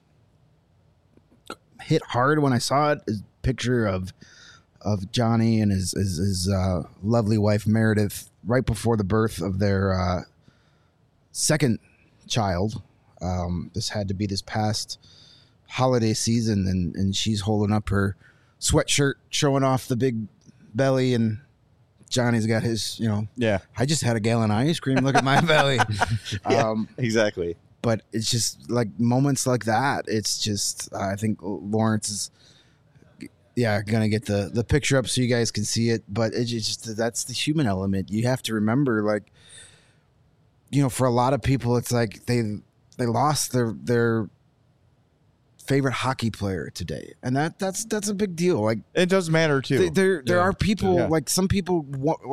Speaker 3: hit hard when I saw it. Is a picture of Johnny and his lovely wife Meredith right before the birth of their second child. This had to be this past holiday season, and she's holding up her sweatshirt, showing off the big belly, and Johnny's got his, I just had a gallon of ice cream. Look at my belly.
Speaker 1: Exactly.
Speaker 3: But it's just like moments like that. It's just, I think Lawrence is, going to get the picture up so you guys can see it. But it's just, that's the human element. You have to remember, like, for a lot of people, it's like they lost their favorite hockey player today. And that's a big deal. Like,
Speaker 1: it does matter too.
Speaker 3: There are people, like some people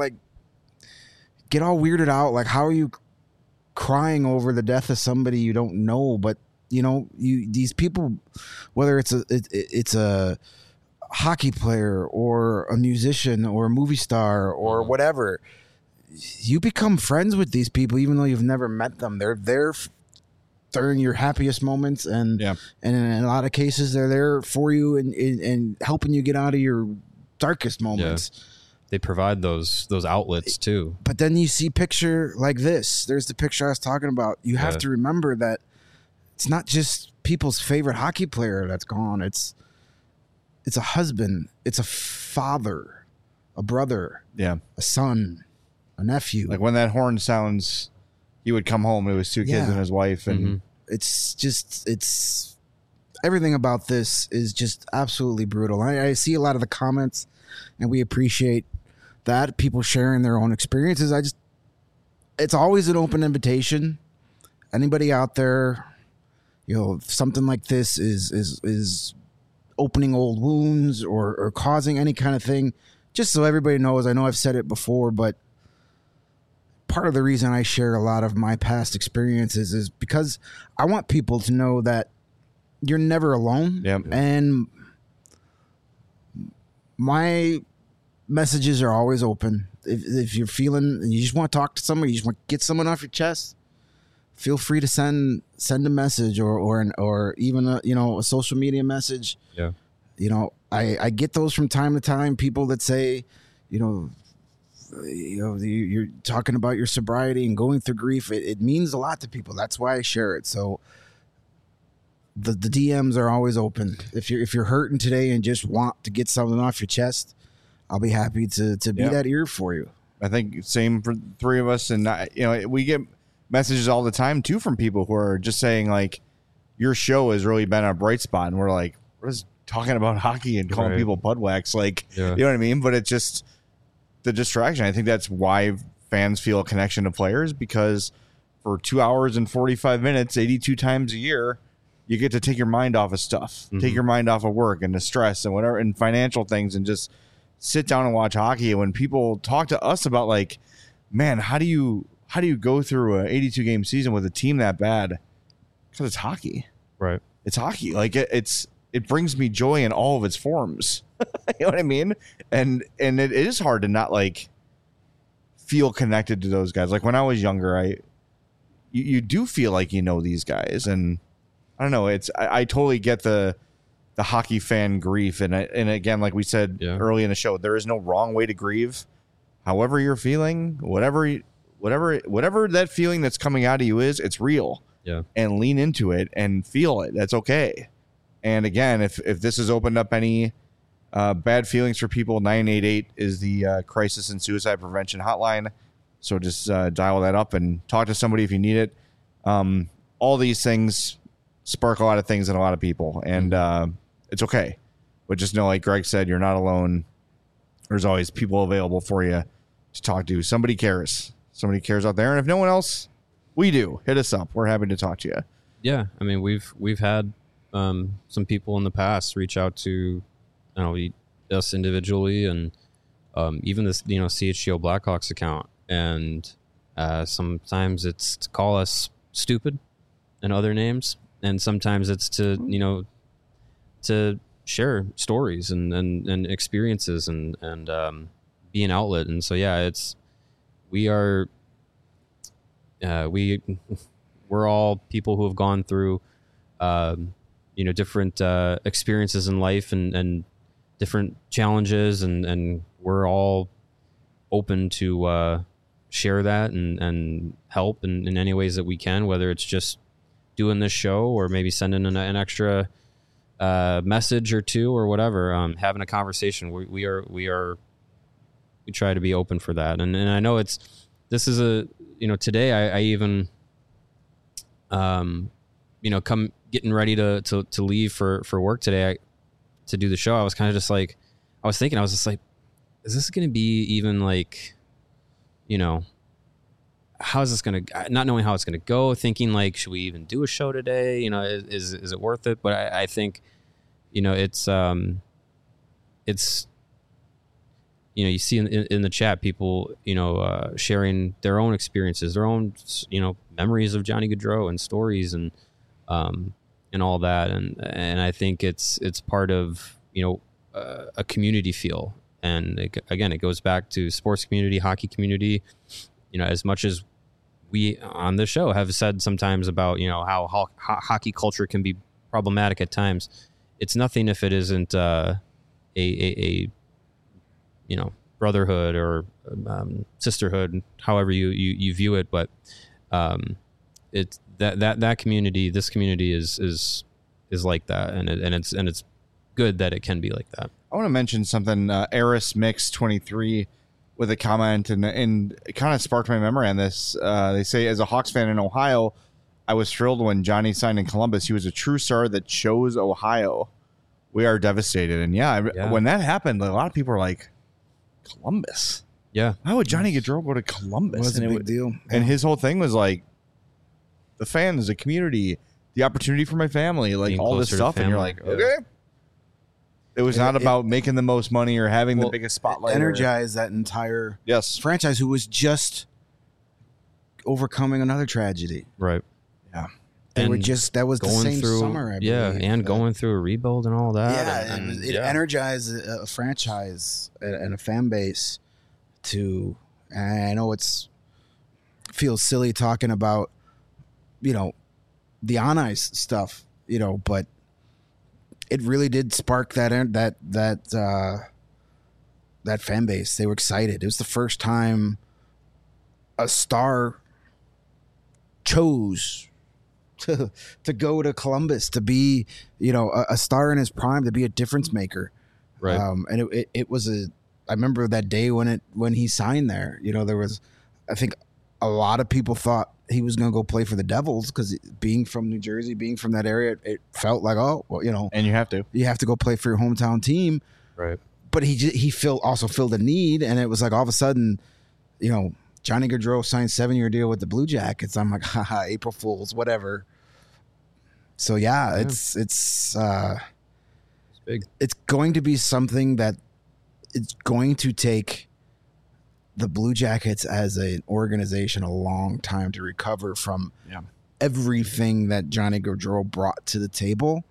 Speaker 3: get all weirded out. Like, how are you crying over the death of somebody you don't know? But these people, whether it's a hockey player or a musician or a movie star or whatever, you become friends with these people even though you've never met them. They're there during your happiest moments, and in a lot of cases they're there for you and helping you get out of your darkest moments.
Speaker 2: They provide those outlets too.
Speaker 3: But then you see picture like this. There's the picture I was talking about. You have to remember that it's not just people's favorite hockey player that's gone. It's a husband. It's a father, a brother, a son, a nephew.
Speaker 1: Like when that horn sounds, he would come home. It was two kids and his wife, and
Speaker 3: it's everything about this is just absolutely brutal. I see a lot of the comments, and we appreciate that, people sharing their own experiences. It's always an open invitation. Anybody out there, if something like this is opening old wounds or causing any kind of thing, just so everybody knows. I know I've said it before, but part of the reason I share a lot of my past experiences is because I want people to know that you're never alone.
Speaker 1: Yep.
Speaker 3: And my messages are always open. If you're feeling and you just want to talk to somebody, you just want to get someone off your chest, feel free to send a message or even a social media message.
Speaker 2: Yeah.
Speaker 3: I get those from time to time. People that say, you're talking about your sobriety and going through grief. It means a lot to people. That's why I share it. So the DMs are always open. If you're hurting today and just want to get something off your chest, I'll be happy to be that ear for you.
Speaker 1: I think same for the three of us. And we get messages all the time too from people who are just saying like, your show has really been a bright spot. And we're like, what is talking about hockey and calling people Budwax? Like, you know what I mean? But it's just the distraction. I think that's why fans feel a connection to players, because for 2 hours and 45 minutes, 82 times a year, you get to take your mind off of stuff, take your mind off of work and the stress and whatever and financial things, and just sit down and watch hockey. And when people talk to us about like, man, how do you go through an 82 game season with a team that bad? Because it's hockey,
Speaker 2: right?
Speaker 1: It's hockey. Like it brings me joy in all of its forms. You know what I mean? And it is hard to not like feel connected to those guys. Like when I was younger, you do feel like you know these guys, and I don't know. I totally get the hockey fan grief, and again, like we said early in the show, there is no wrong way to grieve. However you're feeling, whatever that feeling that's coming out of you is, it's real.
Speaker 2: Yeah,
Speaker 1: and lean into it and feel it. That's okay. And again, if this has opened up any bad feelings for people, 988 is the crisis and suicide prevention hotline. So just dial that up and talk to somebody if you need it. All these things spark a lot of things in a lot of people, and it's okay. But just know, like Greg said, you're not alone. There's always people available for you to talk to. Somebody cares. Somebody cares out there. And if no one else, we do. Hit us up. We're happy to talk to you.
Speaker 2: Yeah, I mean, we've had some people in the past reach out to us individually, and even this CHGO Blackhawks account. And sometimes it's to call us stupid and other names, and sometimes it's to share stories and experiences and be an outlet. And so we're all people who have gone through different experiences in life and different challenges, and we're all open to share that and help in any ways that we can, whether it's just doing this show or maybe sending an extra message or two or whatever, having a conversation. We try to be open for that. And I know today I even come getting ready to leave for work today to do the show. I was kind of just like, I was just like, is this going to be even like, how is this going to, not knowing how it's going to go, thinking like, should we even do a show today? Is it worth it? But I think, it's you see in the chat, people, sharing their own experiences, their own, memories of Johnny Gaudreau and stories and all that. And I think it's part of, a community feel. And again, it goes back to sports community, hockey community, as much as we on this show have said sometimes about, how hockey culture can be problematic at times. It's nothing if it isn't a brotherhood or sisterhood, however you view it. But it's that community, this community is like that, and it's good that it can be like that.
Speaker 1: I want to mention something. Eris Mix 23 with a comment, and it kind of sparked my memory on this. They say, as a Hawks fan in Ohio, I was thrilled when Johnny signed in Columbus. He was a true star that chose Ohio. We are devastated. And when that happened, a lot of people were like, Columbus?
Speaker 2: Yeah.
Speaker 1: Why would Johnny Gaudreau go to Columbus?
Speaker 3: It was a big deal.
Speaker 1: And his whole thing was like, the fans, the community, the opportunity for my family, like all this stuff. And you're like, okay. It was not about making the most money or having the biggest spotlight.
Speaker 3: Energize that entire franchise who was just overcoming another tragedy.
Speaker 2: Right.
Speaker 3: Yeah. That was the same summer, I believe. Yeah, and
Speaker 2: going through a rebuild and all that.
Speaker 3: Yeah, it energized a franchise and a fan base to, and I know feels silly talking about, the on ice stuff, but it really did spark that fan base. They were excited. It was the first time a star chose to go to Columbus, to be, a star in his prime, to be a difference maker.
Speaker 2: Right.
Speaker 3: And it was I remember that day when he signed there, there was, I think a lot of people thought he was going to go play for the Devils because being from New Jersey, being from that area, it felt like, and you have to go play for your hometown team.
Speaker 2: Right.
Speaker 3: But he also filled a need. And it was like, all of a sudden, Johnny Gaudreau signed 7-year deal with the Blue Jackets. I'm like, haha, April Fools, whatever. So it's
Speaker 2: big.
Speaker 3: It's going to be something that it's going to take the Blue Jackets as an organization a long time to recover from everything that Johnny Gaudreau brought to the table.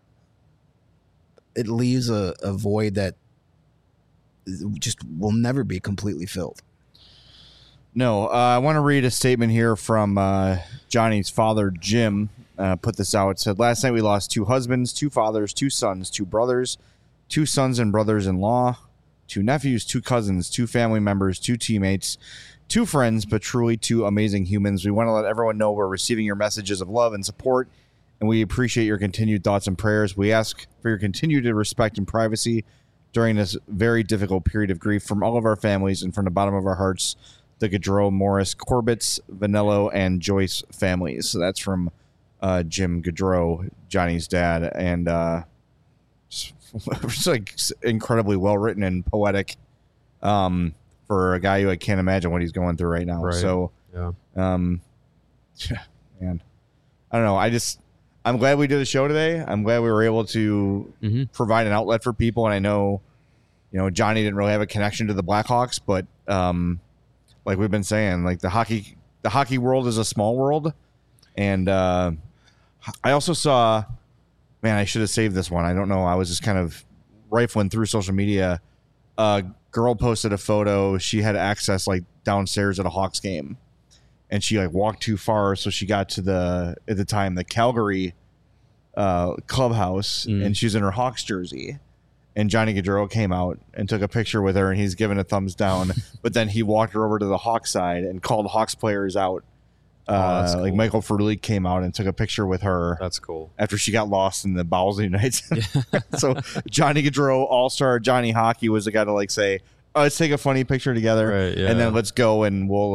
Speaker 3: It leaves a void that just will never be completely filled.
Speaker 1: No, I want to read a statement here from Johnny's father, Jim. Put this out. It said, last night we lost 2 husbands, 2 fathers, 2 sons, 2 brothers, 2 sons and brothers-in-law, 2 nephews, 2 cousins, 2 family members, 2 teammates, 2 friends, but truly 2 amazing humans. We want to let everyone know we're receiving your messages of love and support, and we appreciate your continued thoughts and prayers. We ask for your continued respect and privacy during this very difficult period of grief from all of our families and from the bottom of our hearts, the Gaudreau, Morris, Corbetts, Vanello, and Joyce families. So that's from Jim Gaudreau, Johnny's dad, and it's like incredibly well written and poetic for a guy who I can't imagine what he's going through right now.
Speaker 2: Right.
Speaker 1: So,
Speaker 2: Yeah.
Speaker 1: man, I don't know. I'm glad we did a show today. I'm glad we were able to provide an outlet for people. And I know, Johnny didn't really have a connection to the Blackhawks, but like we've been saying, like the hockey world is a small world. And I also saw, man, I should have saved this one. I don't know. I was just kind of rifling through social media. A girl posted a photo. She had access like downstairs at a Hawks game, and she like walked too far, so she got to at the time the Calgary clubhouse, and she's in her Hawks jersey. And Johnny Gaudreau came out and took a picture with her, and he's giving a thumbs down. But then he walked her over to the Hawks side and called Hawks players out.
Speaker 2: That's cool.
Speaker 1: Like Michael Frolik came out and took a picture with her.
Speaker 2: That's cool.
Speaker 1: After she got lost in the bowels of the United States. So Johnny Gaudreau, all-star Johnny Hockey, was the guy to like say, "Oh, let's take a funny picture together,
Speaker 2: Right, yeah.
Speaker 1: and then let's go and we'll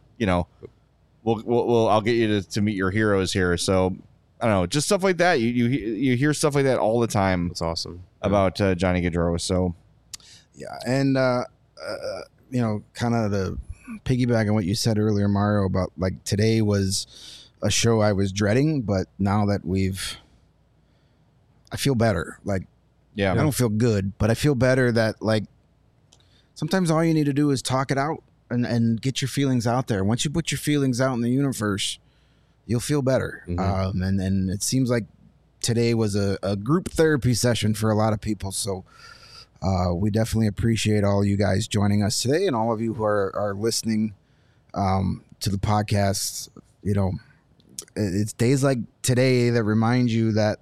Speaker 1: I'll get you to meet your heroes here." So I don't know, just stuff like that. You hear stuff like that all the time.
Speaker 2: That's awesome
Speaker 1: About Johnny Gaudreau. So
Speaker 3: Yeah, and kind of the piggyback on what you said earlier, Mario, about like today was a show I was dreading, but now that I feel better. Like,
Speaker 1: yeah,
Speaker 3: I don't feel good, but I feel better that like sometimes all you need to do is talk it out and get your feelings out there. Once you put your feelings out in the universe, you'll feel better. And it seems like today was a group therapy session for a lot of people. So we definitely appreciate all you guys joining us today, and all of you who are listening to the podcast. It's days like today that remind you that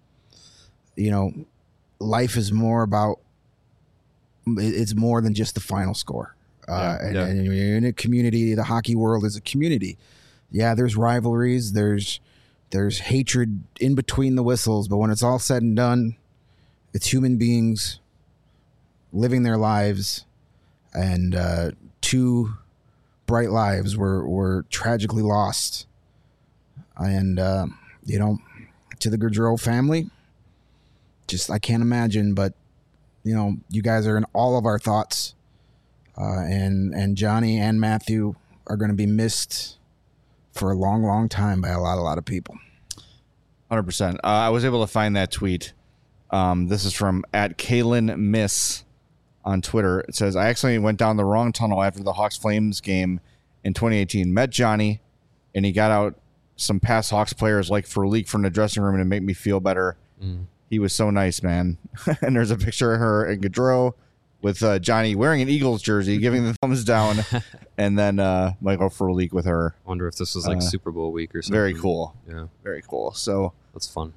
Speaker 3: life is more about, it's more than just the final score. And you're in a community. The hockey world is a community. Yeah, there's rivalries. There's hatred in between the whistles. But when it's all said and done, it's human beings living their lives, and 2 bright lives were tragically lost. And to the Gaudreau family, just I can't imagine, but you guys are in all of our thoughts, and Johnny and Matthew are going to be missed for a long, long time by a lot of people.
Speaker 1: 100%. I was able to find that tweet. This is from @KaylinMiss on Twitter. It says, "I accidentally went down the wrong tunnel after the Hawks Flames game in 2018. Met Johnny, and he got out some past Hawks players like Frolik from the dressing room to make me feel better. He was so nice, man." And there's a picture of her and Gaudreau with Johnny wearing an Eagles jersey, giving the thumbs down, and then Michael Frolik with her.
Speaker 2: I wonder if this was like Super Bowl week or something.
Speaker 1: Very cool.
Speaker 2: Yeah,
Speaker 1: very cool. So
Speaker 2: that's fun.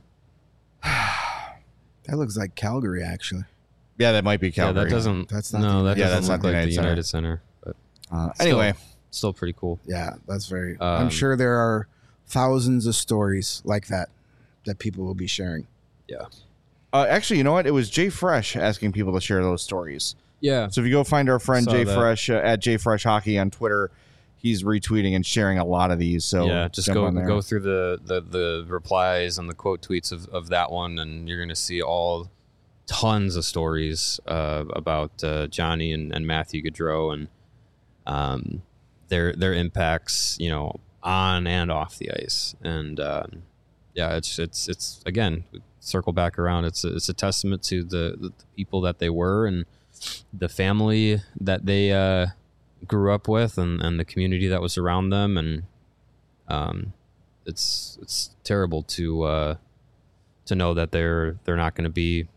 Speaker 3: That looks like Calgary, actually.
Speaker 1: Yeah, that might be Calgary.
Speaker 2: Yeah, that doesn't.
Speaker 3: That's not.
Speaker 2: No, that
Speaker 1: that's
Speaker 2: doesn't
Speaker 1: not
Speaker 2: look
Speaker 1: the
Speaker 2: like the
Speaker 1: United
Speaker 2: United Center. But
Speaker 1: anyway,
Speaker 2: still pretty cool.
Speaker 3: Yeah, that's very. I'm sure there are thousands of stories like that people will be sharing.
Speaker 2: Yeah.
Speaker 1: Actually, you know what? It was Jay Fresh asking people to share those stories.
Speaker 2: Yeah.
Speaker 1: So if you go find our friend
Speaker 2: Saw
Speaker 1: Jay
Speaker 2: that.
Speaker 1: Fresh at Jay Fresh Hockey on Twitter, he's retweeting and sharing a lot of these. So
Speaker 2: yeah, just
Speaker 1: jump on there.
Speaker 2: go through the replies and the quote tweets of that one, and you're going to see tons of stories about Johnny and Matthew Gaudreau and their impacts, on and off the ice. And it's again, circle back around. It's a testament to the people that they were and the family that they grew up with and the community that was around them. And it's terrible to know that they're not going to be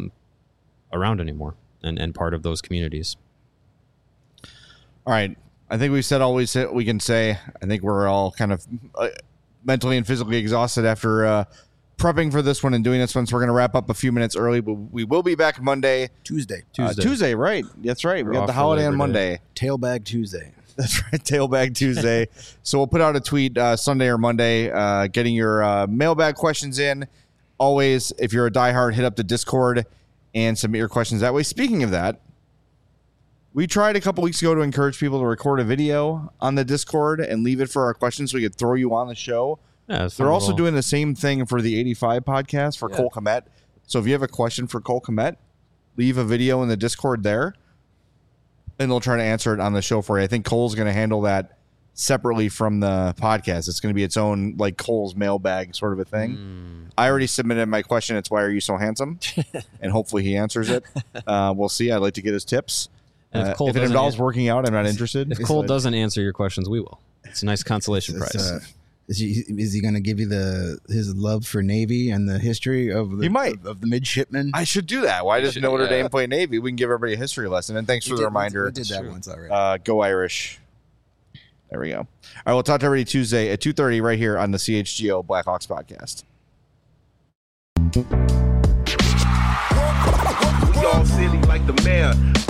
Speaker 2: around anymore and part of those communities.
Speaker 1: All right. I think we've said all we can say. I think we're all kind of mentally and physically exhausted after prepping for this one and doing this one. So we're going to wrap up a few minutes early, but we will be back Monday. Tuesday, right. That's right. We got the holiday on Monday.
Speaker 3: Tailbag Tuesday.
Speaker 1: That's right. Tailbag Tuesday. So we'll put out a tweet Sunday or Monday getting your mailbag questions in. Always, if you're a diehard, hit up the Discord and submit your questions that way. Speaking of that, we tried a couple weeks ago to encourage people to record a video on the Discord and leave it for our questions so we could throw you on the show.
Speaker 2: Yeah,
Speaker 1: they're also doing the same thing for the 85 podcast for Cole Kmet. So if you have a question for Cole Kmet, leave a video in the Discord there, and they'll try to answer it on the show for you. I think Cole's going to handle that separately from the podcast. It's going to be its own, like, Cole's mailbag sort of a thing. I already submitted my question. It's why are you so handsome? And hopefully he answers it. We'll see. I'd like to get his tips. If it involves working out, I'm not interested.
Speaker 2: If Cole doesn't answer your questions, we will. It's a nice consolation prize.
Speaker 3: Is he going to give you his love for Navy and the history of the midshipmen?
Speaker 1: I should do that. Why does Notre Dame play Navy? We can give everybody a history lesson. And thanks for the reminder.
Speaker 3: We did that once already.
Speaker 1: Go Irish. There we go. All right, we'll talk to everybody Tuesday at 2:30 right here on the CHGO Blackhawks podcast.
Speaker 8: We all silly like the mayor.